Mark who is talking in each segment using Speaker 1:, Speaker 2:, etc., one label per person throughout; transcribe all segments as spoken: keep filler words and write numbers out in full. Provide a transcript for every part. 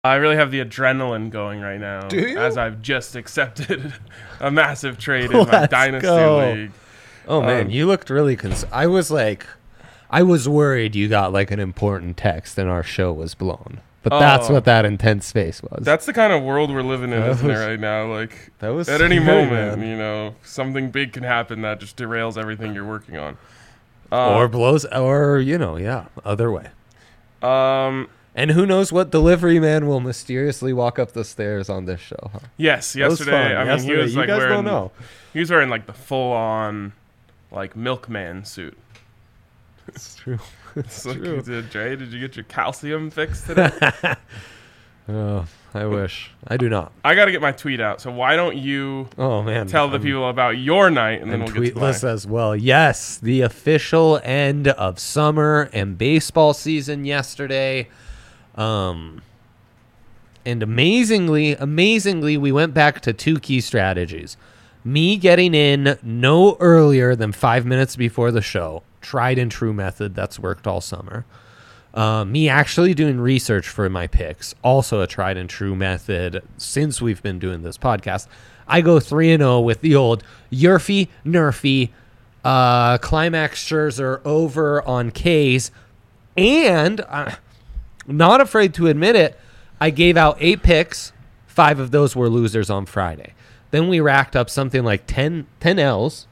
Speaker 1: I really have the adrenaline going right now.
Speaker 2: Do you?
Speaker 1: As I've just accepted a massive trade in my
Speaker 2: Let's
Speaker 1: Dynasty
Speaker 2: go.
Speaker 1: League.
Speaker 2: Oh, man,
Speaker 1: Um,
Speaker 2: you looked really cons- I was like, I was worried you got like an important text and our show was blown. But that's
Speaker 1: Oh.
Speaker 2: what that intense face was.
Speaker 1: That's the kind of world we're living in,
Speaker 2: That
Speaker 1: isn't
Speaker 2: was-
Speaker 1: it, right now? Like,
Speaker 2: that was
Speaker 1: at any
Speaker 2: scary,
Speaker 1: moment,
Speaker 2: man.
Speaker 1: you know, something big can happen that just derails everything you're working on. Uh,
Speaker 2: or blows, or, you know, yeah, other way.
Speaker 1: um,
Speaker 2: And who knows what delivery man will mysteriously walk up the stairs on this show, huh?
Speaker 1: yes,
Speaker 2: That was
Speaker 1: yesterday.
Speaker 2: fun.
Speaker 1: I mean,
Speaker 2: Yesterday,
Speaker 1: he was
Speaker 2: you
Speaker 1: like
Speaker 2: guys
Speaker 1: wearing.
Speaker 2: don't know.
Speaker 1: He was wearing like the full-on, like milkman suit.
Speaker 2: It's true.
Speaker 1: It's like, did, Dre, did you get your calcium fixed today?
Speaker 2: Oh, I wish. I do not.
Speaker 1: I got to get my tweet out. So why don't you
Speaker 2: Oh, man.
Speaker 1: tell the
Speaker 2: I'm-
Speaker 1: people about your night, and then
Speaker 2: and
Speaker 1: we'll get to
Speaker 2: tweetless
Speaker 1: mine.
Speaker 2: as well. Yes, the official end of summer and baseball season yesterday. Um, and amazingly, amazingly, we went back to two key strategies. Me getting in no earlier than five minutes before the show. Tried and true method that's worked all summer. Uh, me actually doing research for my picks, also a tried and true method since we've been doing this podcast. I go three and zero with the old Yurfy Nerfy, uh, Climax Scherzer over on K's, and uh, not afraid to admit it, I gave out eight picks. Five of those were losers on Friday. Then we racked up something like ten, ten L's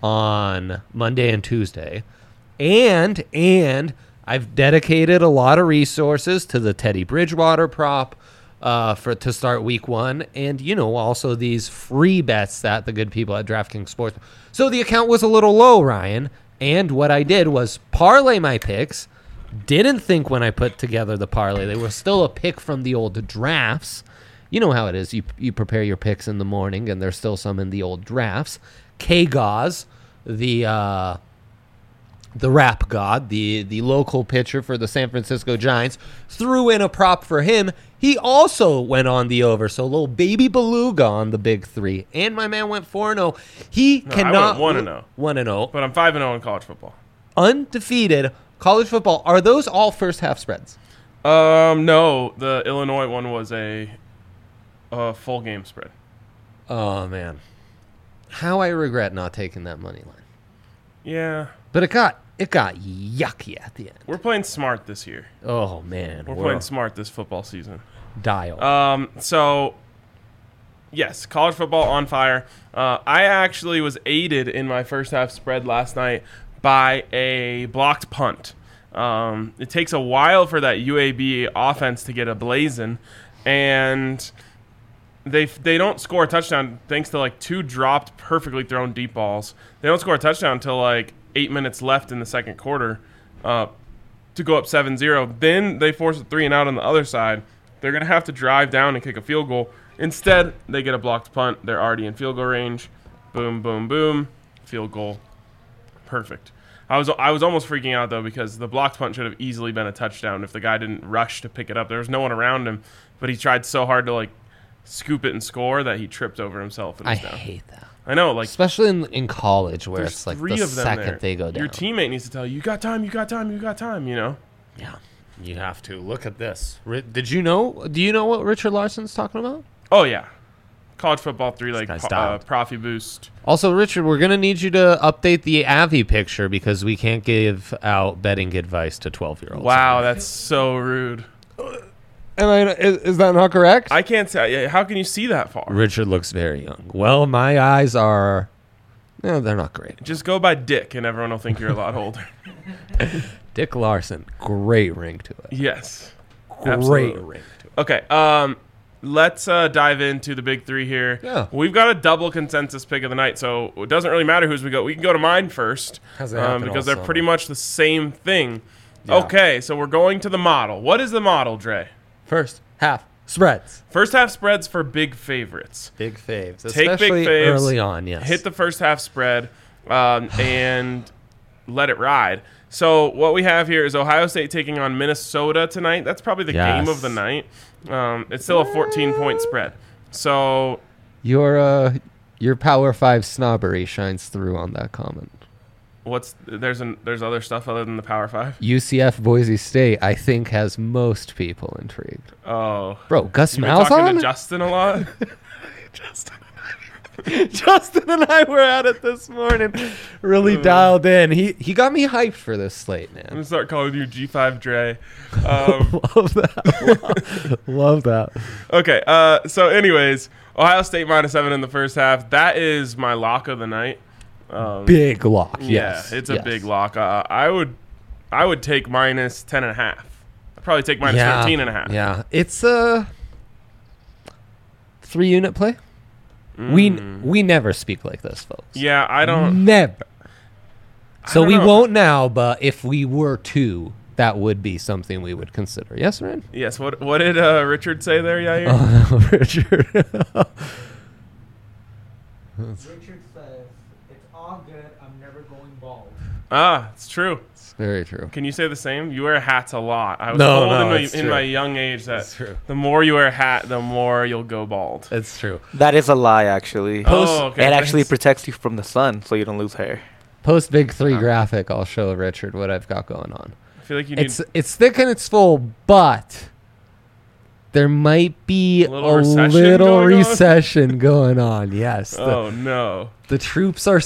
Speaker 2: on Monday and Tuesday, and and. I've dedicated a lot of resources to the Teddy Bridgewater prop uh, for to start week one. And, you know, also these free bets that the good people at DraftKings Sports. So the account was a little low, Ryan. And what I did was parlay my picks. Didn't think when I put together the parlay. They were still a pick from the old drafts. You know how it is. You, you prepare your picks in the morning, and there's still some in the old drafts. K-Gauze, the... Uh, the rap god, the, the local pitcher for the San Francisco Giants, threw in a prop for him. He also went on the over. So little baby beluga on the big three. And my man went four and oh. He
Speaker 1: No, I
Speaker 2: cannot...
Speaker 1: went one and oh.
Speaker 2: one and oh.
Speaker 1: But I'm five and oh in college football.
Speaker 2: Undefeated. College football. Are those all first half spreads?
Speaker 1: Um, no, the Illinois one was a, a full game spread.
Speaker 2: Oh, man. How I regret not taking that money line.
Speaker 1: Yeah.
Speaker 2: But it got it got yucky at the end.
Speaker 1: We're playing smart this year.
Speaker 2: Oh, man.
Speaker 1: We're, playing smart this football season.
Speaker 2: Dial.
Speaker 1: Um, so, yes, college football on fire. Uh, I actually was aided in my first half spread last night by a blocked punt. Um, it takes a while for that U A B offense to get a blazing, and they they don't score a touchdown thanks to like two dropped perfectly thrown deep balls. They don't score a touchdown until like eight minutes left in the second quarter uh, to go up seven zero. Then they force a three and out on the other side. They're going to have to drive down and kick a field goal. Instead, they get a blocked punt. They're already in field goal range. Boom, boom, boom. Field goal. Perfect. I was I was almost freaking out, though, because the blocked punt should have easily been a touchdown if the guy didn't rush to pick it up. There was no one around him, but he tried so hard to, like, scoop it and score that he tripped over himself and
Speaker 2: I
Speaker 1: was down.
Speaker 2: hate that.
Speaker 1: I know, like,
Speaker 2: Especially in, in college where
Speaker 1: there's
Speaker 2: it's like
Speaker 1: three
Speaker 2: the
Speaker 1: of them
Speaker 2: second
Speaker 1: there.
Speaker 2: they go down.
Speaker 1: Your teammate needs to tell you, you got time, you got time, you got time, you know?
Speaker 2: Yeah, you have to. Look at this. Ri- Did you know? Do you know what Richard Larson's talking about?
Speaker 1: Oh, yeah. College football three, like,
Speaker 2: guy's
Speaker 1: po- uh,
Speaker 2: dialed.
Speaker 1: Profi Boost.
Speaker 2: Also, Richard, we're going to need you to update the Avi picture because we can't give out betting advice to twelve-year-olds.
Speaker 1: Wow, that's so rude.
Speaker 2: Am I, is, is that not correct?
Speaker 1: I can't say. How can you see that far?
Speaker 2: Richard looks very young. Well, my eyes are... No, they're not great.
Speaker 1: Just go by Dick, and everyone will think you're a lot older.
Speaker 2: Dick Larson, great ring to it.
Speaker 1: Yes.
Speaker 2: Great
Speaker 1: absolutely.
Speaker 2: ring to it.
Speaker 1: Okay, um, let's uh, dive into the big three here.
Speaker 2: Yeah.
Speaker 1: We've got a double consensus pick of the night, so it doesn't really matter who's we go. We can go to mine first
Speaker 2: How's that
Speaker 1: um,
Speaker 2: happen
Speaker 1: because
Speaker 2: all
Speaker 1: they're pretty
Speaker 2: summer?
Speaker 1: much the same thing.
Speaker 2: Yeah.
Speaker 1: Okay, so we're going to the model. What is the model, Dre?
Speaker 2: First half spreads.
Speaker 1: First half spreads for big favorites.
Speaker 2: Big faves.
Speaker 1: Take big
Speaker 2: Especially
Speaker 1: faves,
Speaker 2: early on, yes.
Speaker 1: Hit the first half spread um, and let it ride. So what we have here is Ohio State taking on Minnesota tonight. That's probably the
Speaker 2: Yes.
Speaker 1: game of the night. Um, it's still a fourteen-point spread. So
Speaker 2: Your uh, your Power Five snobbery shines through on that comment.
Speaker 1: What's there's an there's other stuff other than the Power Five.
Speaker 2: U C F Boise State, I think, has most people intrigued.
Speaker 1: Oh,
Speaker 2: Bro, Gus
Speaker 1: you been
Speaker 2: Malzahn?
Speaker 1: talking to Justin a lot.
Speaker 2: Justin and I, Justin and I were at it this morning. Really dialed in. He he got me hyped for this slate,
Speaker 1: I'm
Speaker 2: man.
Speaker 1: gonna start calling you G five Dre. Um,
Speaker 2: Love that. Love that.
Speaker 1: okay. Uh. So, anyways, Ohio State minus seven in the first half. That is my lock of the night. Um,
Speaker 2: Big lock.
Speaker 1: Yeah,
Speaker 2: Yes.
Speaker 1: it's a
Speaker 2: yes.
Speaker 1: big lock. Uh, I would, I would take minus ten and a half. I'd probably take minus
Speaker 2: yeah,
Speaker 1: thirteen and a half.
Speaker 2: Yeah, it's a three unit play. We
Speaker 1: Mm.
Speaker 2: we never speak like this, folks.
Speaker 1: Yeah, I don't.
Speaker 2: Never. So
Speaker 1: don't
Speaker 2: we
Speaker 1: know.
Speaker 2: won't now, but if we were to, that would be something we would consider. Yes, Ryan?
Speaker 1: Yes. What What did uh, Richard say there, Yair?
Speaker 2: Oh, no, Richard.
Speaker 3: Richard says, it's all good. I'm never going bald.
Speaker 1: Ah, it's true.
Speaker 2: It's very true.
Speaker 1: Can you say the same? You wear hats a lot. I was
Speaker 2: No,
Speaker 1: told
Speaker 2: no,
Speaker 1: in, my,
Speaker 2: it's
Speaker 1: in
Speaker 2: true.
Speaker 1: my young age that
Speaker 2: It's true.
Speaker 1: the more you wear a hat, the more you'll go bald.
Speaker 2: It's true.
Speaker 3: That is a lie, actually.
Speaker 1: Oh, okay.
Speaker 3: it actually
Speaker 1: thanks.
Speaker 3: protects you from the sun, so you don't lose hair.
Speaker 2: Post Big Three
Speaker 1: Oh.
Speaker 2: graphic. I'll show Richard what I've got going on.
Speaker 1: I feel like you need
Speaker 2: It's it's thick and it's full, but there might be
Speaker 1: A
Speaker 2: a
Speaker 1: little
Speaker 2: little,
Speaker 1: recession going on?
Speaker 2: recession going on. Yes. The,
Speaker 1: Oh no.
Speaker 2: the troops are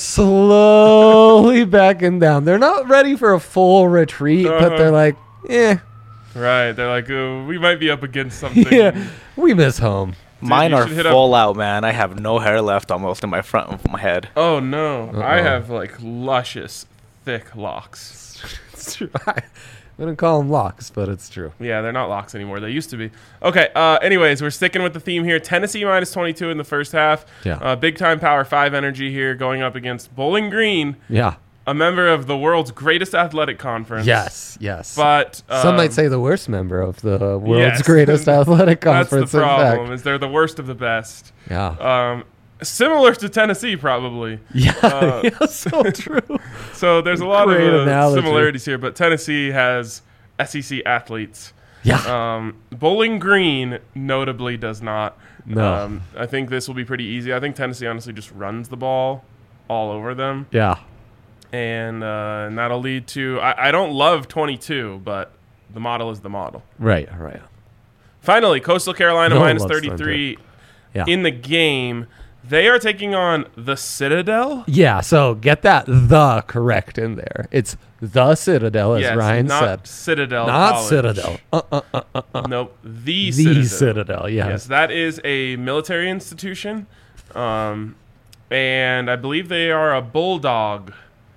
Speaker 2: slowly backing down. They're not ready for a full retreat, but
Speaker 1: Uh-huh.
Speaker 2: they're like, eh,
Speaker 1: Right. They're like, oh, we might be up against something.
Speaker 2: yeah, we miss home.
Speaker 1: Dude,
Speaker 3: Mine
Speaker 1: you
Speaker 3: are
Speaker 1: should hit up-
Speaker 3: full out, man. I have no hair left almost in my front of my head.
Speaker 1: Oh no. I
Speaker 2: Uh-oh.
Speaker 1: have like luscious, thick locks.
Speaker 2: It's true. I wouldn't call them locks, but it's true.
Speaker 1: Yeah, they're not locks anymore. They used to be. Okay. Uh, anyways, we're sticking with the theme here. Tennessee minus twenty-two in the first half.
Speaker 2: Yeah.
Speaker 1: Uh, big time Power Five energy here, going up against Bowling Green,
Speaker 2: Yeah.
Speaker 1: a member of the world's greatest athletic conference.
Speaker 2: Yes. Yes.
Speaker 1: But um,
Speaker 2: some might say the worst member of the world's
Speaker 1: yes.
Speaker 2: greatest athletic
Speaker 1: that's the
Speaker 2: conference. In
Speaker 1: problem.
Speaker 2: fact.
Speaker 1: Is they're the worst of the best.
Speaker 2: Yeah.
Speaker 1: Um, similar to Tennessee, probably.
Speaker 2: Yeah.
Speaker 1: uh,
Speaker 2: yeah. So true.
Speaker 1: So there's a lot
Speaker 2: Great
Speaker 1: of uh,
Speaker 2: analogy.
Speaker 1: similarities here, but Tennessee has S E C athletes.
Speaker 2: Yeah.
Speaker 1: Um, Bowling Green notably does not.
Speaker 2: No.
Speaker 1: Um, I think this will be pretty easy. I think Tennessee honestly just runs the ball all over them,
Speaker 2: Yeah.
Speaker 1: and uh, and that'll lead to. I, I don't love twenty-two, but the model is the model.
Speaker 2: Right. Right.
Speaker 1: Finally, Coastal Carolina
Speaker 2: No one
Speaker 1: minus
Speaker 2: loves
Speaker 1: thirty-three
Speaker 2: Yeah.
Speaker 1: in the game. They are taking on the Citadel.
Speaker 2: Yeah, so get that the correct in there. It's the Citadel, as
Speaker 1: Yes,
Speaker 2: Ryan
Speaker 1: not
Speaker 2: said.
Speaker 1: Citadel.
Speaker 2: Not
Speaker 1: College.
Speaker 2: Citadel. Uh, uh, uh, uh, uh.
Speaker 1: Nope, the,
Speaker 2: The
Speaker 1: Citadel.
Speaker 2: Citadel, yes.
Speaker 1: Yes, that is a military institution, um, and I believe they are a bulldog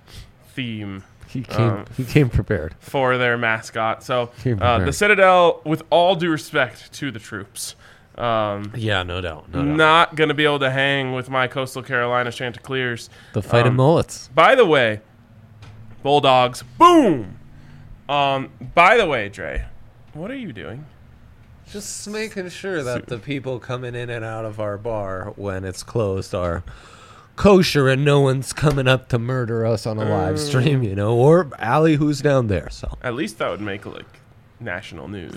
Speaker 1: theme
Speaker 2: He came,
Speaker 1: Um,
Speaker 2: he came prepared.
Speaker 1: for their mascot. So
Speaker 2: Came
Speaker 1: uh, the
Speaker 2: prepared.
Speaker 1: Citadel, with all due respect to the troops, um,
Speaker 2: Yeah, no doubt.
Speaker 1: not going to be able to hang with my Coastal Carolina Chanticleers.
Speaker 2: The fight of
Speaker 1: um,
Speaker 2: mullets.
Speaker 1: By the way, Bulldogs, boom! Um, by the way, Dre, what are you doing?
Speaker 2: Just making sure that the people coming in and out of our bar when it's closed are kosher and no one's coming up to murder us on a live stream, you know, or Allie who's down there. So
Speaker 1: At least that would make like national news.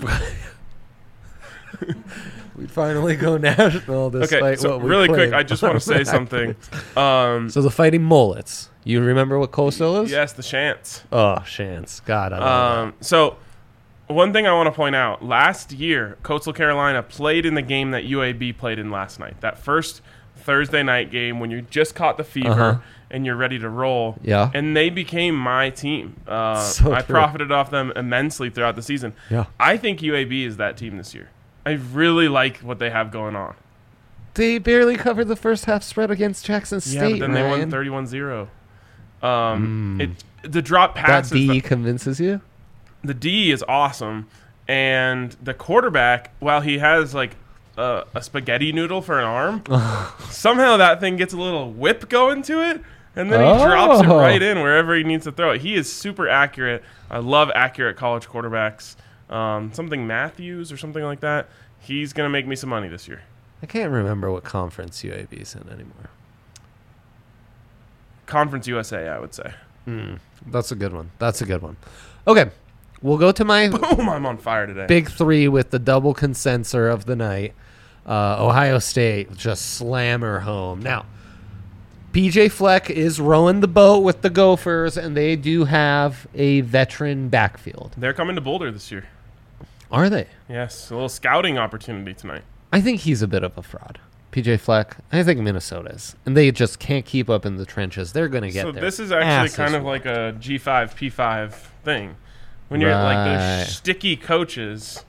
Speaker 2: we finally go national despite
Speaker 1: Okay, so
Speaker 2: what we
Speaker 1: really quick,
Speaker 2: claim
Speaker 1: I just want to say
Speaker 2: automatically.
Speaker 1: something. Um,
Speaker 2: So the fighting mullets. You remember what Coastal is?
Speaker 1: yes, the Shants.
Speaker 2: Oh, Chance. God, I love
Speaker 1: Um, so one thing I want to point out: last year, Coastal Carolina played in the game that U A B played in last night. That first Thursday night game when you just caught the fever
Speaker 2: Uh-huh.
Speaker 1: and you're ready to roll.
Speaker 2: Yeah.
Speaker 1: And they became my team. Uh,
Speaker 2: So
Speaker 1: I
Speaker 2: true.
Speaker 1: profited off them immensely throughout the season.
Speaker 2: Yeah.
Speaker 1: I think U A B is that team this year. I really like what they have going on.
Speaker 2: They barely covered the first half spread against Jackson State.
Speaker 1: Yeah, but then they
Speaker 2: Ryan.
Speaker 1: won thirty-one zero. Um, it the drop
Speaker 2: That
Speaker 1: passes.
Speaker 2: D
Speaker 1: the,
Speaker 2: convinces you?
Speaker 1: the D is awesome, and the quarterback, while he has like a, a spaghetti noodle for an arm, somehow that thing gets a little whip going to it, and then he drops it
Speaker 2: Oh.
Speaker 1: right in wherever he needs to throw it. He is super accurate. I love accurate college quarterbacks. Um, something Matthews or something like that. He's gonna make me some money this year.
Speaker 2: I can't remember what conference U A B's in anymore.
Speaker 1: Conference U S A, I would say.
Speaker 2: That's a good one. That's a good one. Okay, we'll go to my
Speaker 1: Boom! I'm on fire today.
Speaker 2: big three with the double consensor of the night. Uh, Ohio State just slammer home. Now, P J Fleck is rowing the boat with the Gophers, and they do have a veteran backfield.
Speaker 1: They're coming to Boulder this year.
Speaker 2: Are they?
Speaker 1: Yes, a little scouting opportunity tonight.
Speaker 2: I think he's a bit of a fraud. P J Fleck, I think Minnesota's. And they just can't keep up in the trenches. They're going to get
Speaker 1: So
Speaker 2: there.
Speaker 1: this is actually kind of like a G five, P five thing. When you're like
Speaker 2: Right.
Speaker 1: the sticky coaches,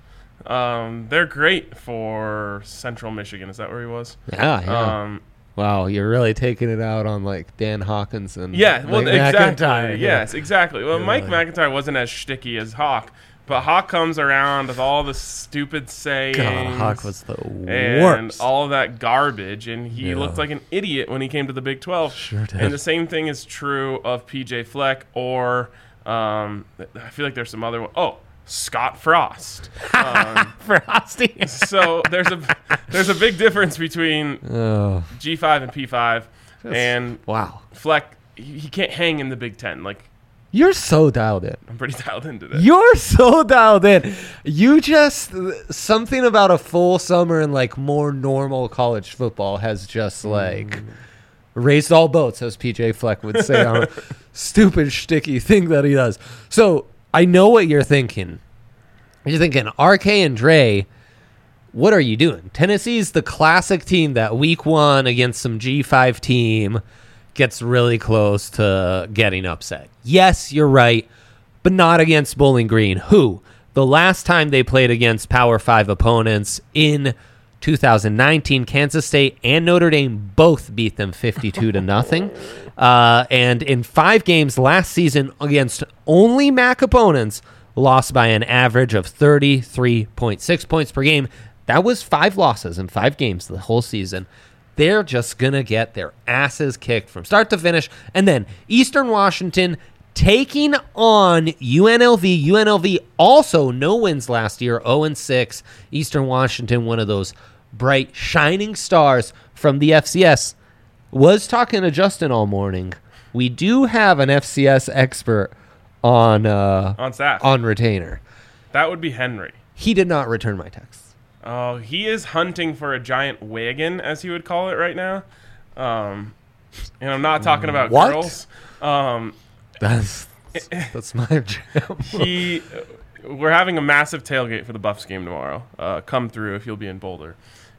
Speaker 1: um, they're great for Central Michigan. Is that where he was?
Speaker 2: Yeah, yeah.
Speaker 1: Um,
Speaker 2: Wow, you're really taking it out on like Dan Hawkins and
Speaker 1: yeah, well,
Speaker 2: Mike
Speaker 1: exactly.
Speaker 2: McIntyre.
Speaker 1: Yes, exactly. Well,
Speaker 2: Yeah.
Speaker 1: Mike McIntyre wasn't as sticky as Hawk, but Hawk comes around with all the stupid sayings.
Speaker 2: God, Hawk was the
Speaker 1: and
Speaker 2: worst.
Speaker 1: all of that garbage, and he
Speaker 2: Yeah.
Speaker 1: looked like an idiot when he came to the Big twelve.
Speaker 2: Sure did.
Speaker 1: And the same thing is true of P J Fleck, or um, I feel like there's some other one. Oh, Scott Frost. Um,
Speaker 2: Frosty.
Speaker 1: so there's a there's a big difference between
Speaker 2: Oh,
Speaker 1: G five and P five, and
Speaker 2: wow.
Speaker 1: Fleck. He, he can't hang in the Big Ten. Like,
Speaker 2: You're so dialed in.
Speaker 1: I'm pretty dialed into this.
Speaker 2: You're so dialed in. You just something about a full summer and like more normal college football has just like raised all boats, as P J Fleck would say on a stupid sticky thing that he does. So I know what you're thinking. You're thinking R K and Dre. What are you doing? Tennessee's the classic team that week one against some G five team gets really close to getting upset. Yes, you're right, but not against Bowling Green, who the last time they played against Power five opponents in two thousand nineteen, Kansas State and Notre Dame both beat them fifty-two to nothing. Uh, and in five games last season against only M A C opponents, lost by an average of thirty-three point six points per game. That was five losses in five games the whole season. They're just going to get their asses kicked from start to finish. And then Eastern Washington taking on U N L V. U N L V also no wins last year, oh and six. Eastern Washington, one of those bright, shining stars from the F C S. Was talking to Justin all morning. We do have an F C S expert on uh,
Speaker 1: on staff.
Speaker 2: on retainer.
Speaker 1: That would be Henry.
Speaker 2: He did not return my text.
Speaker 1: Oh, he is hunting for a giant wagon, as he would call it right now. Um, and I'm not talking about
Speaker 2: What?
Speaker 1: girls. Um,
Speaker 2: That's that's my jam.
Speaker 1: he, we're having a massive tailgate for the Buffs game tomorrow. Uh, come through if you'll be in Boulder.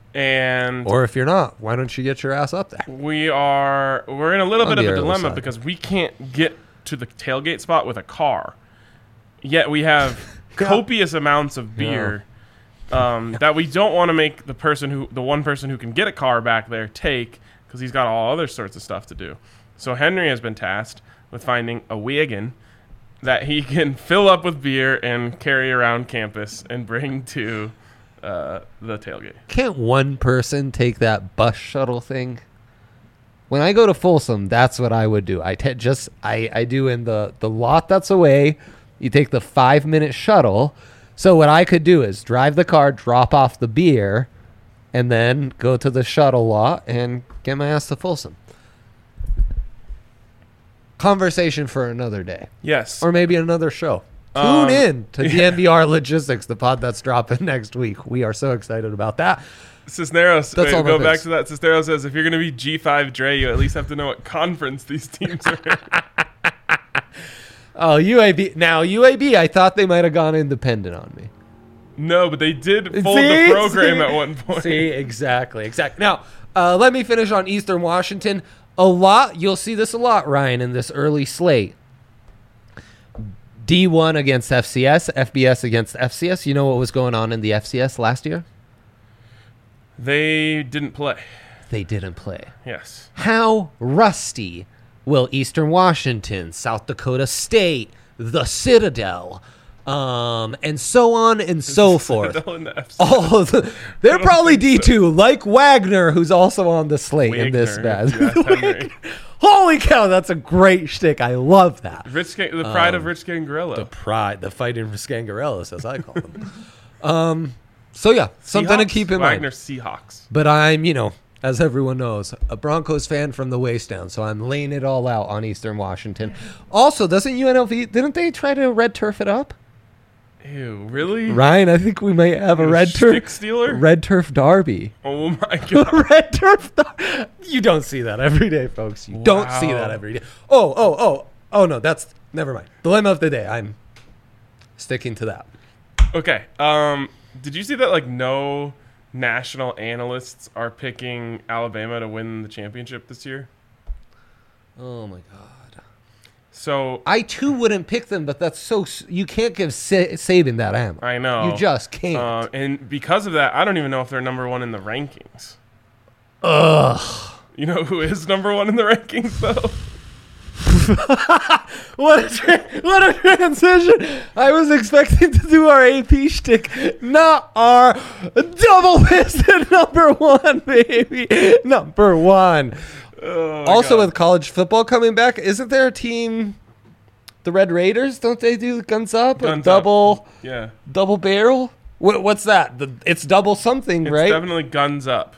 Speaker 1: And
Speaker 2: Or if you're not, why don't you get your ass up there?
Speaker 1: we are we're in a little
Speaker 2: On
Speaker 1: bit of
Speaker 2: the
Speaker 1: a
Speaker 2: early
Speaker 1: dilemma
Speaker 2: side.
Speaker 1: because we can't get to the tailgate spot with a car. Yet we have
Speaker 2: Yeah.
Speaker 1: copious amounts of beer um, that we don't want to make the person who the one person who can get a car back there take, because he's got all other sorts of stuff to do. So Henry has been tasked with finding a wagon that he can fill up with beer and carry around campus and bring to uh, the tailgate.
Speaker 2: Can't one person take that bus shuttle thing? When I go to Folsom, that's what I would do. I te- just I, I do in the, the lot that's away. You take the five minute shuttle. So what I could do is drive the car, drop off the beer, and then go to the shuttle lot and get my ass to Folsom. Conversation for another day,
Speaker 1: Yes.
Speaker 2: or maybe another show. Tune
Speaker 1: Um,
Speaker 2: in to D N V R Logistics, the pod that's dropping next week. We are so excited about that.
Speaker 1: Cisneros,
Speaker 2: That's
Speaker 1: wait,
Speaker 2: all
Speaker 1: go
Speaker 2: that
Speaker 1: back
Speaker 2: is.
Speaker 1: to that. Cisneros says, if you're going to be G five Dre, you at least have to know what conference these teams are in.
Speaker 2: Oh, U A B. Now, U A B, I thought they might have gone independent on me.
Speaker 1: No, but they did fold
Speaker 2: See?
Speaker 1: the program
Speaker 2: See?
Speaker 1: at one point.
Speaker 2: See, exactly, exactly. Now, uh, let me finish on Eastern Washington. A lot, you'll see this a lot, Ryan, in this early slate. D one against F C S, F B S against F C S. You know what was going on in the F C S last year?
Speaker 1: They didn't play.
Speaker 2: They didn't play.
Speaker 1: Yes.
Speaker 2: How rusty will Eastern Washington, South Dakota State, the Citadel, um, and so on and so forth.
Speaker 1: Citadel in the F C S.
Speaker 2: All of the, they're
Speaker 1: don't
Speaker 2: probably
Speaker 1: think
Speaker 2: D two, like Wagner, who's also on the slate in this
Speaker 1: Wagner,
Speaker 2: bad.
Speaker 1: if you ask Henry.
Speaker 2: Holy cow, that's a great shtick. I love that.
Speaker 1: Rich, Scan- the pride of
Speaker 2: Um,
Speaker 1: Rich Gangarello.
Speaker 2: The pride, the fighting for Scangarellas, as I call them. um, so yeah, something to
Speaker 1: Seahawks?
Speaker 2: keep in
Speaker 1: Wagner
Speaker 2: mind.
Speaker 1: Seahawks.
Speaker 2: But I'm, you know, as everyone knows, a Broncos fan from the waist down, so I'm laying it all out on Eastern Washington. Also, doesn't U N L V, didn't they try to red turf it up?
Speaker 1: Ew, really?
Speaker 2: Ryan, I think we might have a red
Speaker 1: Stick
Speaker 2: turf
Speaker 1: stealer?
Speaker 2: red turf derby.
Speaker 1: Oh my god.
Speaker 2: Red turf. Dar- you don't see that every day, folks. You don't see
Speaker 1: Wow.
Speaker 2: that every day. Oh, oh, oh, oh no, that's never mind. Dilemma of the day. I'm sticking to that.
Speaker 1: Okay. Um, did you see that like no national analysts are picking Alabama to win the championship this year?
Speaker 2: Oh my god.
Speaker 1: So
Speaker 2: I too wouldn't pick them, but that's so s- you can't give Sa- Saban that ammo.
Speaker 1: I know.
Speaker 2: You just can't.
Speaker 1: Uh, and because of that, I don't even know if they're number one in the rankings.
Speaker 2: Ugh.
Speaker 1: You know who is number one in the rankings though?
Speaker 2: What a tra- what a transition! I was expecting to do our A P shtick, not our double-fisted number one, baby. Number one.
Speaker 1: Oh,
Speaker 2: Also,
Speaker 1: God.
Speaker 2: with college football coming back, isn't there a team, the Red Raiders? Don't they do guns up? A
Speaker 1: Guns
Speaker 2: double,
Speaker 1: yeah,
Speaker 2: double barrel? What, what's that? The, it's double something,
Speaker 1: it's
Speaker 2: right?
Speaker 1: definitely guns up.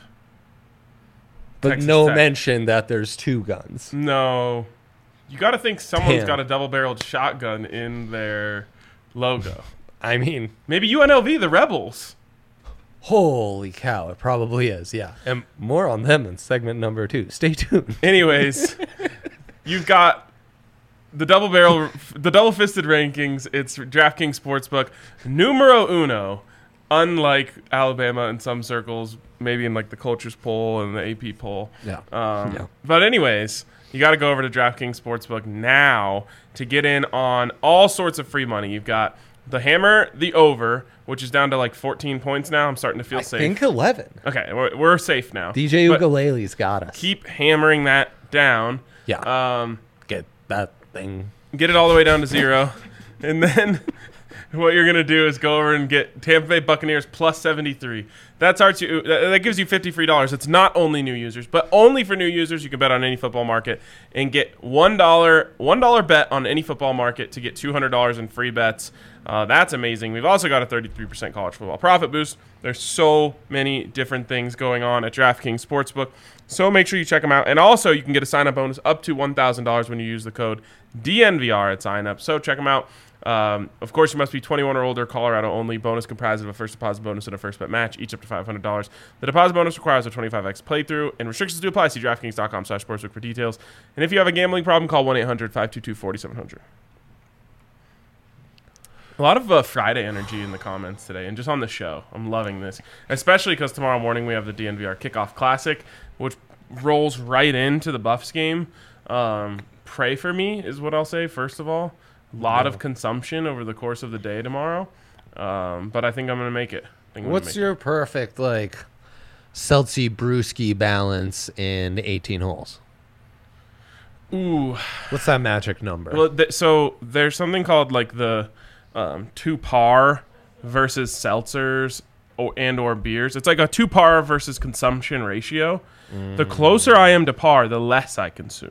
Speaker 2: But
Speaker 1: Texas
Speaker 2: no
Speaker 1: Tech.
Speaker 2: mention that there's two guns.
Speaker 1: No, you got to think someone's
Speaker 2: Damn.
Speaker 1: got a double-barreled shotgun in their logo.
Speaker 2: I mean,
Speaker 1: Maybe U N L V, the Rebels.
Speaker 2: holy cow, it probably is, yeah. And more on them in segment number two. Stay tuned.
Speaker 1: Anyways, you've got the double barrel, the double fisted rankings. It's DraftKings Sportsbook numero uno. Unlike Alabama in some circles, maybe in like the Cultures poll and the A P poll.
Speaker 2: Yeah.
Speaker 1: Um,
Speaker 2: Yeah.
Speaker 1: But anyways, you got to go over to DraftKings Sportsbook now to get in on all sorts of free money. You've got the hammer, the over, which is down to like fourteen points now. I'm starting to feel
Speaker 2: I
Speaker 1: safe.
Speaker 2: think eleven.
Speaker 1: Okay, we're, we're safe now.
Speaker 2: D J
Speaker 1: But
Speaker 2: Ukulele's got us.
Speaker 1: keep hammering that down.
Speaker 2: Yeah.
Speaker 1: Um,
Speaker 2: Get that thing.
Speaker 1: get it all the way down to zero, and then what you're gonna do is go over and get Tampa Bay Buccaneers plus seventy-three. That starts you. That that gives you fifty free dollars. It's not only new users, but only for new users. You can bet on any football market and get one dollar one dollar bet on any football market to get two hundred dollars in free bets. Uh, that's amazing. We've also got a thirty-three percent college football profit boost. There's so many different things going on at DraftKings Sportsbook. So make sure you check them out. And also, you can get a sign-up bonus up to one thousand dollars when you use the code D N V R at sign-up. So check them out. Um, of course, you must be twenty-one or older, Colorado only. Bonus comprised of a first deposit bonus and a first bet match, each up to five hundred dollars. The deposit bonus requires a twenty-five x playthrough, and restrictions do apply. See DraftKings.com slash sportsbook for details. And if you have a gambling problem, call one eight hundred five two two four seven zero zero. A lot of uh, Friday energy in the comments today, and just on the show. I'm loving this, especially because tomorrow morning we have the D N V R Kickoff Classic, which rolls right into the Buffs game. Um, pray for me is what I'll say. First of all, a lot
Speaker 2: No.
Speaker 1: of consumption over the course of the day tomorrow, um, but I think I'm gonna make it. I think I'm gonna
Speaker 2: What's
Speaker 1: make
Speaker 2: your perfect, like, Celtic brewski balance in eighteen holes?
Speaker 1: it. Ooh.
Speaker 2: What's that magic number?
Speaker 1: Well, th- so there's something called like the um, two par versus seltzers or, and or beers. It's like a two par versus consumption ratio. The closer I am to par, the less I consume.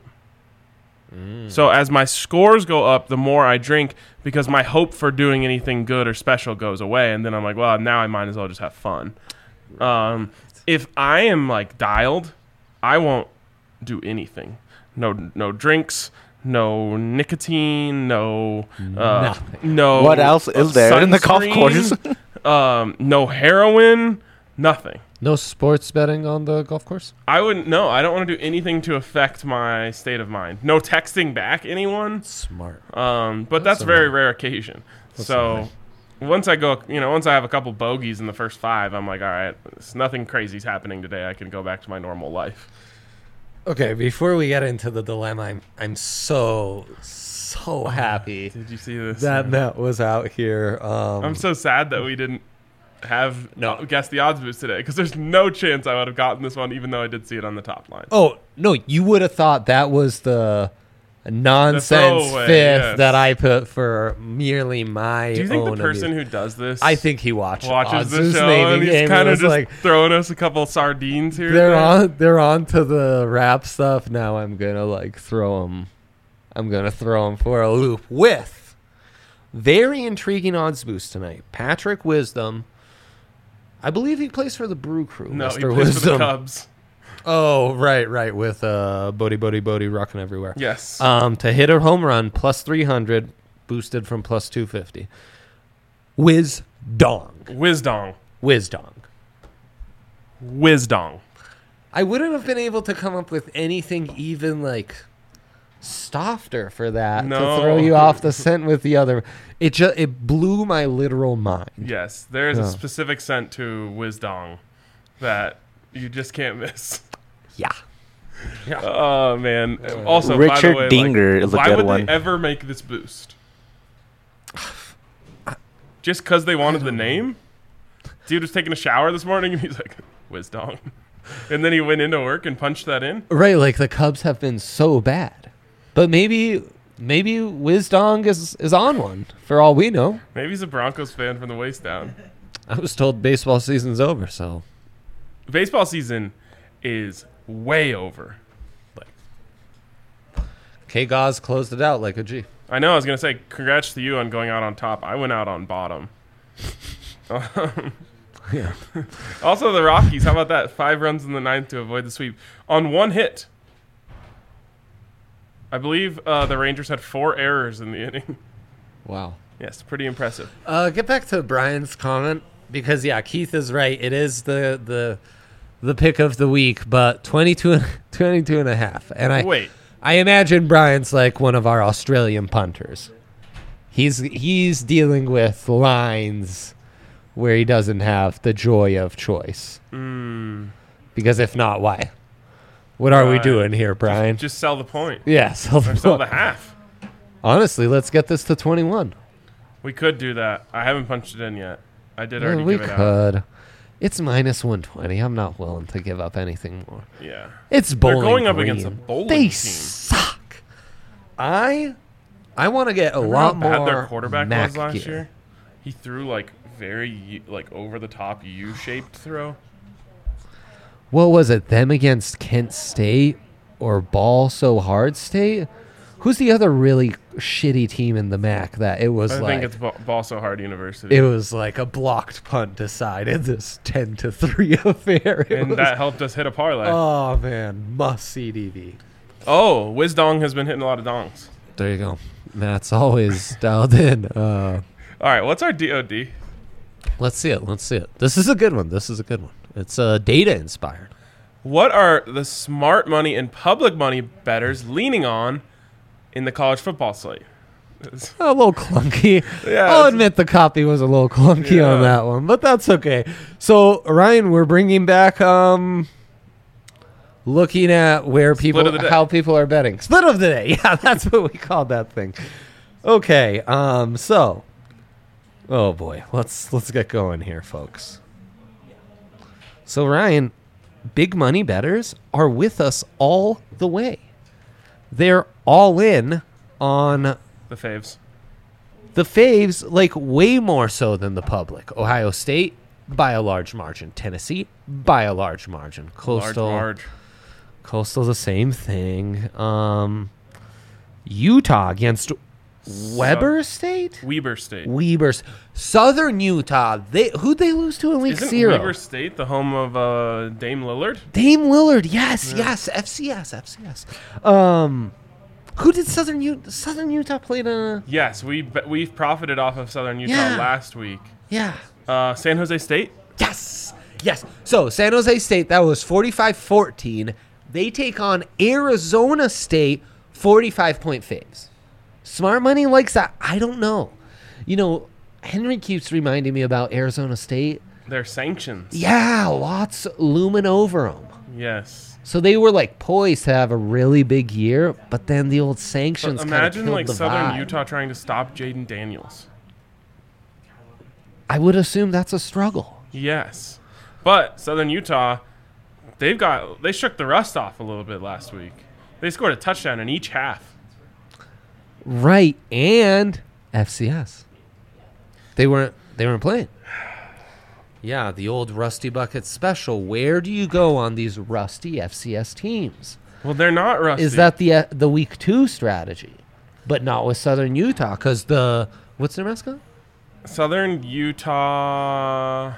Speaker 1: So as my scores go up, the more I drink because my hope for doing anything good or special goes away. And then I'm like, well, now I might as well just have fun. Um, if I am like dialed, I won't do anything. No, no drinks. No nicotine, no, uh,
Speaker 2: Nothing.
Speaker 1: no.
Speaker 4: What else is there in the golf course?
Speaker 1: sunscreen, um, no heroin, nothing.
Speaker 2: No sports betting on the golf course?
Speaker 1: I wouldn't. No, I don't want to do anything to affect my state of mind. No texting back anyone.
Speaker 2: Smart.
Speaker 1: Um, but
Speaker 2: That's
Speaker 1: that's, a very
Speaker 2: nice.
Speaker 1: rare occasion.
Speaker 2: That's
Speaker 1: so
Speaker 2: nice.
Speaker 1: once I go, you know, once I have a couple bogeys in the first five, I'm like, all right, it's nothing crazy's happening today. I can go back to my normal life.
Speaker 2: Okay, before we get into the dilemma, I'm I'm so so happy
Speaker 1: Did you see this?
Speaker 2: that Matt was out here. Um,
Speaker 1: I'm so sad that we didn't have
Speaker 2: No.
Speaker 1: no. guess the odds boost today because there's no chance I would have gotten this one, even though I did see it on the top line.
Speaker 2: oh no, you would have thought that was the nonsense
Speaker 1: throwaway,
Speaker 2: fifth
Speaker 1: yes.
Speaker 2: that I put for merely my.
Speaker 1: Do you think
Speaker 2: own
Speaker 1: the person
Speaker 2: amuse-
Speaker 1: who does this
Speaker 2: I think he watched
Speaker 1: watches
Speaker 2: odds
Speaker 1: the
Speaker 2: boost
Speaker 1: show
Speaker 2: naming
Speaker 1: and he's
Speaker 2: game
Speaker 1: kind of
Speaker 2: was
Speaker 1: just
Speaker 2: like
Speaker 1: throwing us a couple sardines here?
Speaker 2: they're
Speaker 1: and there?
Speaker 2: on they're on to the rap stuff now. I'm gonna like throw them. I'm gonna throw them for a loop with very intriguing odds boost tonight. Patrick Wisdom. I believe he plays for the Brew Crew.
Speaker 1: No,
Speaker 2: Mister
Speaker 1: he plays
Speaker 2: Wisdom.
Speaker 1: for the Cubs.
Speaker 2: Oh, right, right, with uh, Bodie, Bodie, Bodie rocking everywhere.
Speaker 1: Yes.
Speaker 2: Um, to hit a home run, plus three hundred, boosted from plus two fifty. Whiz dong.
Speaker 1: Whizdong.
Speaker 2: Whiz dong.
Speaker 1: Whizdong.
Speaker 2: I wouldn't have been able to come up with anything even like softer for that
Speaker 1: No.
Speaker 2: to throw you off the scent with the other. It just it blew my literal mind.
Speaker 1: Yes, there is
Speaker 2: Yeah.
Speaker 1: a specific scent to Whizdong that you just can't miss.
Speaker 2: Yeah.
Speaker 1: Oh man! Also, by
Speaker 4: Richard
Speaker 1: the way,
Speaker 4: Dinger
Speaker 1: like,
Speaker 4: is a
Speaker 1: why
Speaker 4: good
Speaker 1: would
Speaker 4: one.
Speaker 1: they ever make this boost? Just because they wanted the name? Dude was taking a shower this morning and he's like, Whizdong. And then he went into work and punched that in.
Speaker 2: Right, like the Cubs have been so bad. But maybe maybe Whizdong is is on one for all we know.
Speaker 1: Maybe he's a Broncos fan from the waist down.
Speaker 2: I was told baseball season's over, so
Speaker 1: Baseball season is way over.
Speaker 2: K Gauze closed it out like a G.
Speaker 1: I know. I was gonna say congrats to you on going out on top. I went out on bottom.
Speaker 2: Yeah.
Speaker 1: Also, the Rockies. How about that? Five runs in the ninth to avoid the sweep on one hit. I believe uh, the Rangers had four errors in the inning.
Speaker 2: Wow.
Speaker 1: Yes, pretty impressive.
Speaker 2: Uh, get back to Brian's comment because yeah, Keith is right. It is the the the pick of the week, but twenty-two, and, twenty-two and a half. And I
Speaker 1: Wait,
Speaker 2: I imagine Brian's like one of our Australian punters. He's he's dealing with lines where he doesn't have the joy of choice.
Speaker 1: mm,
Speaker 2: Because if not, why? What are we
Speaker 1: Right.
Speaker 2: doing here, Brian?
Speaker 1: just, just sell the point
Speaker 2: yeah, sell the
Speaker 1: or sell the half.
Speaker 2: Honestly, let's get this to twenty-one.
Speaker 1: We could do that. I haven't punched it in yet. I did
Speaker 2: Yeah,
Speaker 1: already
Speaker 2: we
Speaker 1: give it out.
Speaker 2: could. It's minus one twenty. I'm not willing to give up anything more.
Speaker 1: Yeah.
Speaker 2: It's Bowling
Speaker 1: They're going up
Speaker 2: Green.
Speaker 1: against a bowling
Speaker 2: They
Speaker 1: team.
Speaker 2: suck. I I want to get a
Speaker 1: Remember how
Speaker 2: lot
Speaker 1: bad
Speaker 2: more
Speaker 1: their quarterback
Speaker 2: Mac
Speaker 1: was last
Speaker 2: gear.
Speaker 1: year? He threw like very U- like over the top U-shaped throw.
Speaker 2: What was it? Them against Kent State or Ball So Hard State? Who's the other really shitty team in the M A C that it was
Speaker 1: I
Speaker 2: like
Speaker 1: think it's Ball, Ball So Hard University.
Speaker 2: it was like a blocked punt decided this ten to three affair. It
Speaker 1: and
Speaker 2: was-
Speaker 1: that helped us hit a parlay.
Speaker 2: oh man, must see D V.
Speaker 1: oh, Whizdong has been hitting a lot of dongs.
Speaker 2: There you go. Matt's always dialed in. Uh,
Speaker 1: All right, what's our D O D?
Speaker 2: let's see it. Let's see it. This is a good one. This is a good one. It's uh, data inspired.
Speaker 1: What are the smart money and public money bettors leaning on in the college football slate?
Speaker 2: A little clunky.
Speaker 1: Yeah,
Speaker 2: I'll
Speaker 1: it's-
Speaker 2: admit the copy was a little clunky on
Speaker 1: Yeah.
Speaker 2: that one, but that's okay. So Ryan, we're bringing back um, looking at where people,
Speaker 1: of the day.
Speaker 2: how people are betting. Split of the day. Yeah, that's what we called that thing. Okay. Um. So, oh boy, let's let's get going here, folks. So Ryan, big money bettors are with us all the way. They're all in on
Speaker 1: The faves.
Speaker 2: the faves, like way more so than the public. Ohio State by a large margin. Tennessee by a large margin. Coastal,
Speaker 1: Large, large.
Speaker 2: Coastal, the same thing. Um, Utah against Weber State.
Speaker 1: Weber State.
Speaker 2: Weber, Southern Utah. They who'd they lose to in week
Speaker 1: Isn't
Speaker 2: zero?
Speaker 1: Weber State the home of uh, Dame Lillard?
Speaker 2: Dame Lillard. Yes, yes. F C S, F C S. Um, who did Southern Utah? Southern Utah played a
Speaker 1: Yes, we be- we've profited off of Southern Utah
Speaker 2: Yeah.
Speaker 1: last week.
Speaker 2: yeah.
Speaker 1: Uh, San Jose State.
Speaker 2: Yes. Yes. So San Jose State, that was forty-five fourteen. They take on Arizona State, forty-five point faves. Smart money likes that. I don't know. You know, Henry keeps reminding me about Arizona State.
Speaker 1: Their sanctions.
Speaker 2: Yeah, lots looming over them.
Speaker 1: Yes.
Speaker 2: So they were like poised to have a really big year, but then the old
Speaker 1: But
Speaker 2: sanctions kind of
Speaker 1: imagine
Speaker 2: killed
Speaker 1: like
Speaker 2: the
Speaker 1: Southern
Speaker 2: vibe.
Speaker 1: Utah trying to stop Jaden Daniels.
Speaker 2: I would assume that's a struggle.
Speaker 1: Yes, but Southern Utah, they've got they shook the rust off a little bit last week. They scored a touchdown in each half.
Speaker 2: Right, and F C S. They weren't they weren't playing. Yeah, the old Rusty Bucket special. Where do you go on these rusty F C S teams?
Speaker 1: Well, they're not rusty.
Speaker 2: Is that the uh, the week two strategy? But not with Southern Utah, because the what's their mascot?
Speaker 1: Southern Utah?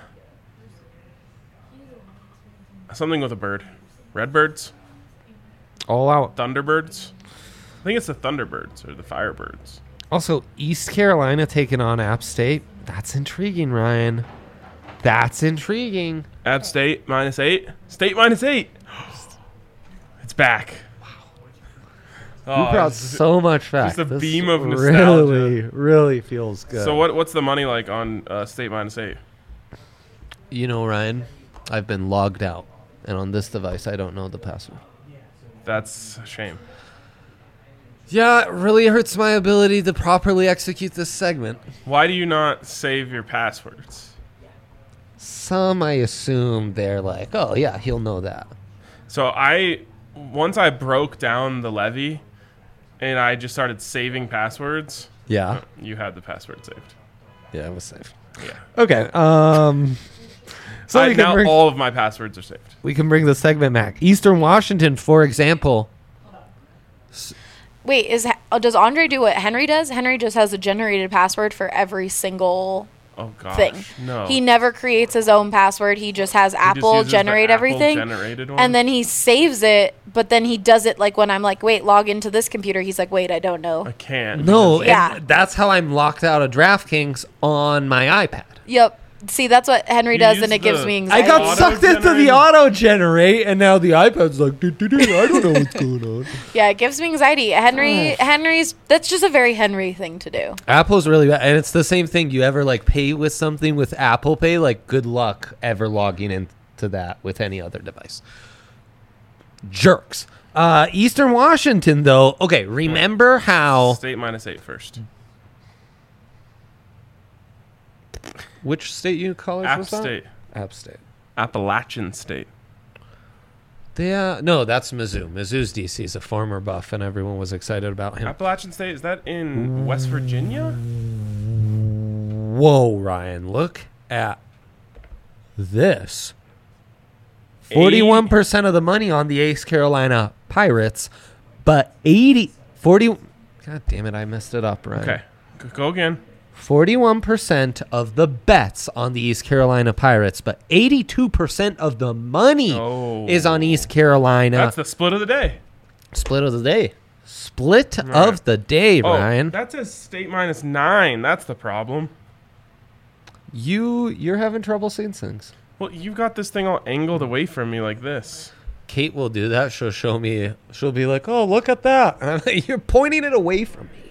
Speaker 1: Something with a bird. Redbirds?
Speaker 2: All out.
Speaker 1: Thunderbirds? I think it's the Thunderbirds or the Firebirds.
Speaker 2: Also, East Carolina taking on App State, That's intriguing, Ryan. That's intriguing.
Speaker 1: App State minus eight. State minus eight. It's back. Wow.
Speaker 2: You brought so much back.
Speaker 1: Just a
Speaker 2: This
Speaker 1: beam of
Speaker 2: Really,
Speaker 1: nostalgia.
Speaker 2: really feels good.
Speaker 1: So what? What's the money like on uh, State minus eight?
Speaker 2: You know, Ryan, I've been logged out, and on this device, I don't know the password.
Speaker 1: That's a shame.
Speaker 2: Yeah, it really hurts my ability to properly execute this segment.
Speaker 1: Why do you not save your passwords?
Speaker 2: Some, I assume, they're like, oh, yeah, he'll know that.
Speaker 1: So I, once I broke down the levy, and I just started saving passwords.
Speaker 2: Yeah.
Speaker 1: You had the password saved.
Speaker 2: Yeah, it was safe.
Speaker 1: Yeah.
Speaker 2: Okay. Um, so
Speaker 1: I,
Speaker 2: we can
Speaker 1: now
Speaker 2: bring,
Speaker 1: all of my passwords are saved.
Speaker 2: we can bring the segment back. Eastern Washington, for example.
Speaker 5: Wait, is oh, does Andre do what Henry does? Henry just has a generated password for every single
Speaker 1: Oh gosh.
Speaker 5: thing.
Speaker 1: No.
Speaker 5: He never creates his own password. He just has
Speaker 1: He just
Speaker 5: Apple
Speaker 1: uses the
Speaker 5: generate
Speaker 1: Apple
Speaker 5: everything.
Speaker 1: generated one?
Speaker 5: And then he saves it, but then he does it like when I'm like, wait, log into this computer. He's like, wait, I don't know.
Speaker 1: I can't.
Speaker 2: No,
Speaker 5: Yeah.
Speaker 2: and that's how I'm locked out of DraftKings on my iPad.
Speaker 5: Yep. See, that's what Henry
Speaker 1: You
Speaker 5: does,
Speaker 1: use
Speaker 5: and it gives
Speaker 1: the-
Speaker 5: me
Speaker 2: I
Speaker 5: anxiety.
Speaker 2: got
Speaker 1: Auto
Speaker 2: sucked into the
Speaker 1: generate?
Speaker 2: auto generate, and now the iPad's like, doo, doo, doo, I don't know what's going on.
Speaker 5: Yeah, it gives me anxiety. Henry, Henry's, that's just a very Henry thing to do.
Speaker 2: Apple's really bad, and it's the same thing. You ever like pay with something with Apple Pay? Like, good luck ever logging into that with any other device. Jerks. Uh, Eastern Washington, though. Okay, remember how?
Speaker 1: State minus eight first.
Speaker 2: Which state you college
Speaker 1: App
Speaker 2: was that?
Speaker 1: State.
Speaker 2: App State.
Speaker 1: Appalachian State.
Speaker 2: They, uh, no, that's Mizzou. Mizzou's D C is a former Buff, and everyone was excited about him.
Speaker 1: Appalachian State, is that in West Virginia?
Speaker 2: Whoa, Ryan, look at this. forty-one percent of the money on the East Carolina Pirates, but eighty, forty, God damn it, I messed it up, Ryan.
Speaker 1: Okay. G- Go again.
Speaker 2: forty-one percent of the bets on the East Carolina Pirates, but eighty-two percent of the money
Speaker 1: Oh.
Speaker 2: is on East Carolina.
Speaker 1: That's the split of the day.
Speaker 2: Split of the day. Split
Speaker 1: Right.
Speaker 2: of the day,
Speaker 1: Oh,
Speaker 2: Ryan.
Speaker 1: that says state minus nine. That's the problem.
Speaker 2: You, you're having trouble seeing things.
Speaker 1: Well, you got this thing all angled away from me like this.
Speaker 2: Kate will do that. She'll show me. She'll be like, "Oh, look at that!" And I'm like, "You're pointing it away from me."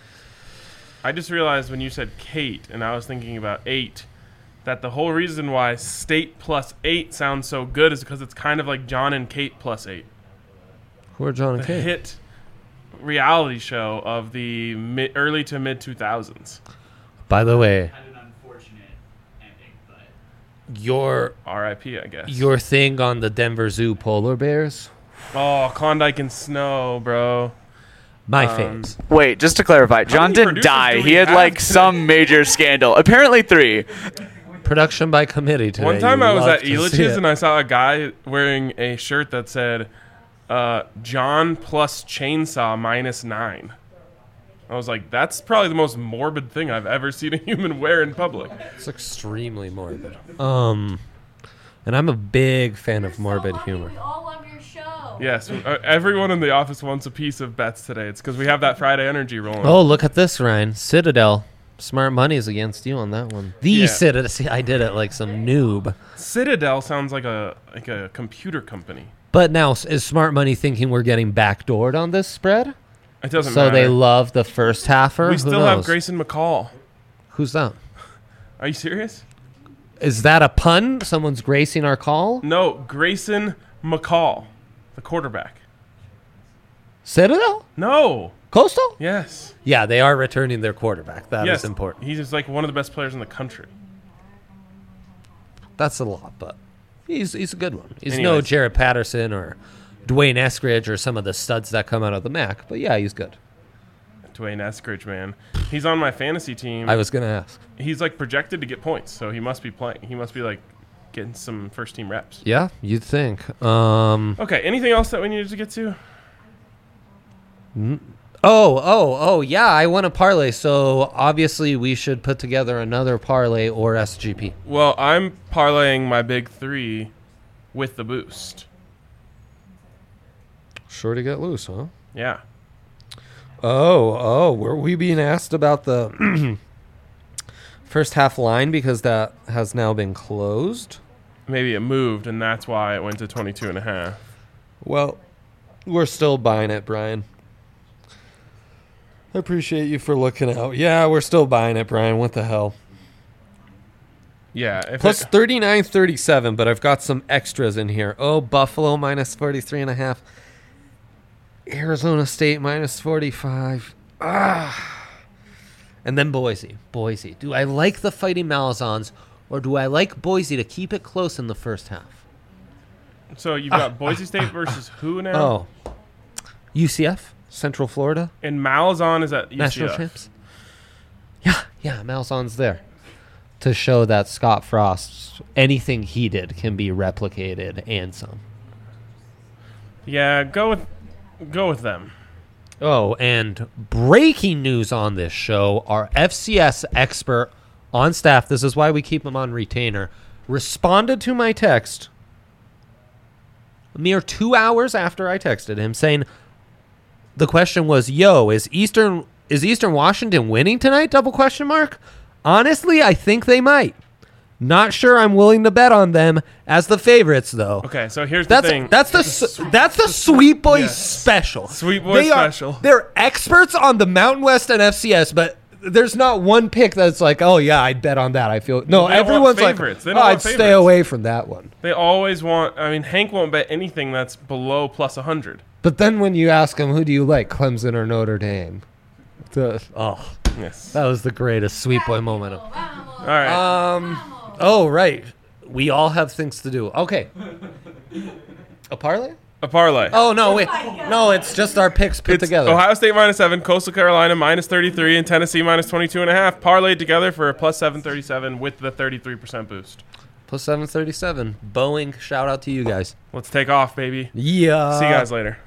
Speaker 1: I just realized when you said Kate, and I was thinking about eight, that the whole reason why state plus eight sounds so good is because it's kind of like John and Kate plus eight.
Speaker 2: Who are John and
Speaker 1: The
Speaker 2: Kate?
Speaker 1: hit reality show of the mid, early to mid two thousands.
Speaker 2: By the way,
Speaker 6: Had an unfortunate ending, but
Speaker 2: your
Speaker 1: R I P, I guess.
Speaker 2: your thing on the Denver Zoo polar bears,
Speaker 1: Oh, Klondike and Snow, bro.
Speaker 2: my
Speaker 1: Um,
Speaker 2: faves.
Speaker 4: Wait, just to clarify, John
Speaker 1: many
Speaker 4: didn't
Speaker 1: producers
Speaker 4: die.
Speaker 1: do
Speaker 4: He
Speaker 1: we
Speaker 4: had
Speaker 1: have
Speaker 4: like
Speaker 1: today?
Speaker 4: some major scandal. Apparently three.
Speaker 2: Production by committee today.
Speaker 1: One time
Speaker 2: You
Speaker 1: I was
Speaker 2: love
Speaker 1: at
Speaker 2: to see
Speaker 1: Elitch's
Speaker 2: it.
Speaker 1: and I saw a guy wearing a shirt that said uh, John plus chainsaw minus nine. I was like, that's probably the most morbid thing I've ever seen a human wear in public.
Speaker 2: It's extremely morbid. Um, and I'm a big fan of morbid humor.
Speaker 5: We all love your show.
Speaker 1: Yes, uh, everyone in the office wants a piece of Bets today. It's because we have that Friday energy rolling.
Speaker 2: Oh, look at this, Ryan. Citadel. Smart money's against you on that one. The
Speaker 1: Yeah.
Speaker 2: Citadel. See, I did it like some noob.
Speaker 1: Citadel sounds like a like a computer company.
Speaker 2: But now, s- is Smart Money thinking we're getting backdoored on this spread?
Speaker 1: It doesn't
Speaker 2: So
Speaker 1: matter.
Speaker 2: they love the first halfer?
Speaker 1: we
Speaker 2: Who
Speaker 1: still have
Speaker 2: knows?
Speaker 1: Grayson McCall.
Speaker 2: Who's that?
Speaker 1: Are you serious?
Speaker 2: Is that a pun? Someone's gracing our call?
Speaker 1: No, Grayson McCall, the quarterback.
Speaker 2: Citadel?
Speaker 1: No.
Speaker 2: Coastal?
Speaker 1: Yes.
Speaker 2: Yeah, they are returning their quarterback. That is
Speaker 1: yes.
Speaker 2: important.
Speaker 1: He's just like one of the best players in the country.
Speaker 2: That's a lot, but he's he's a good one. He's no
Speaker 1: Anyways.
Speaker 2: Jared Patterson or Dwayne Eskridge or some of the studs that come out of the M A C, but yeah, he's good.
Speaker 1: Dwayne Eskridge, man. He's on my fantasy team.
Speaker 2: I was going to ask.
Speaker 1: He's like projected to get points, so he must be playing. He must be like getting some first team reps.
Speaker 2: Yeah, you'd think. Um,
Speaker 1: Okay, anything else that we needed to get to?
Speaker 2: oh, oh, oh, yeah, I want to parlay, so obviously we should put together another parlay or S G P.
Speaker 1: Well, I'm parlaying my big three with the boost.
Speaker 2: Sure to get loose, huh?
Speaker 1: Yeah.
Speaker 2: Oh, oh, were we being asked about the first half line because that has now been closed.
Speaker 1: Maybe it moved, and that's why it went to twenty-two and a half.
Speaker 2: Well, we're still buying it, Brian. I appreciate you for looking out. Yeah, we're still buying it, Brian. What the hell?
Speaker 1: Yeah. If
Speaker 2: Plus
Speaker 1: it,
Speaker 2: thirty-nine thirty-seven, but I've got some extras in here. Oh, Buffalo minus forty-three and a half. Arizona State minus forty-five. Ah. And then Boise. Boise. Do I like the Fighting Malazans, or do I like Boise to keep it close in the first half?
Speaker 1: so you've got Boise State versus who now?
Speaker 2: Oh. U C F? Central Florida?
Speaker 1: And Malzahn is at U C F.
Speaker 2: National champs? Yeah, yeah, Malzahn's there. To show that Scott Frost, anything he did can be replicated and some.
Speaker 1: Yeah, go with go with them.
Speaker 2: Oh, and breaking news on this show, our F C S expert on staff, this is why we keep him on retainer, responded to my text a mere two hours after I texted him saying, the question was, yo, is Eastern is Eastern Washington winning tonight? Double question mark. Honestly, I think they might. Not sure I'm willing to bet on them as the favorites, though.
Speaker 1: Okay, so here's
Speaker 2: That's
Speaker 1: the thing.
Speaker 2: that's the s- that's the Sweet Boys
Speaker 1: Yes.
Speaker 2: special.
Speaker 1: Sweet Boy
Speaker 2: They are-
Speaker 1: special.
Speaker 2: they're experts on the Mountain West and F C S, but there's not one pick that's like, oh yeah, I'd bet on that. I feel no.
Speaker 1: They don't want
Speaker 2: Everyone's like,
Speaker 1: favorites. They
Speaker 2: oh,
Speaker 1: don't
Speaker 2: I'd
Speaker 1: want
Speaker 2: stay
Speaker 1: favorites.
Speaker 2: away from that one.
Speaker 1: They always want. I mean, Hank won't bet anything that's below plus one hundred.
Speaker 2: But then when you ask him, who do you like, Clemson or Notre Dame? The, oh,
Speaker 1: Yes.
Speaker 2: that was the greatest Sweet Boy moment. Of,
Speaker 1: All right.
Speaker 2: um. Oh right, we all have things to do. Okay. A parlay?
Speaker 1: A parlay.
Speaker 2: Oh no, wait, no, it's just our picks put
Speaker 1: It's
Speaker 2: together.
Speaker 1: Ohio State minus seven, Coastal Carolina minus thirty-three, and Tennessee minus twenty-two and a half. Parlayed together for a plus seven thirty-seven with the thirty-three percent boost.
Speaker 2: Plus seven thirty-seven. Boeing, shout out to you guys.
Speaker 1: Let's take off, baby.
Speaker 2: Yeah.
Speaker 1: See you guys later.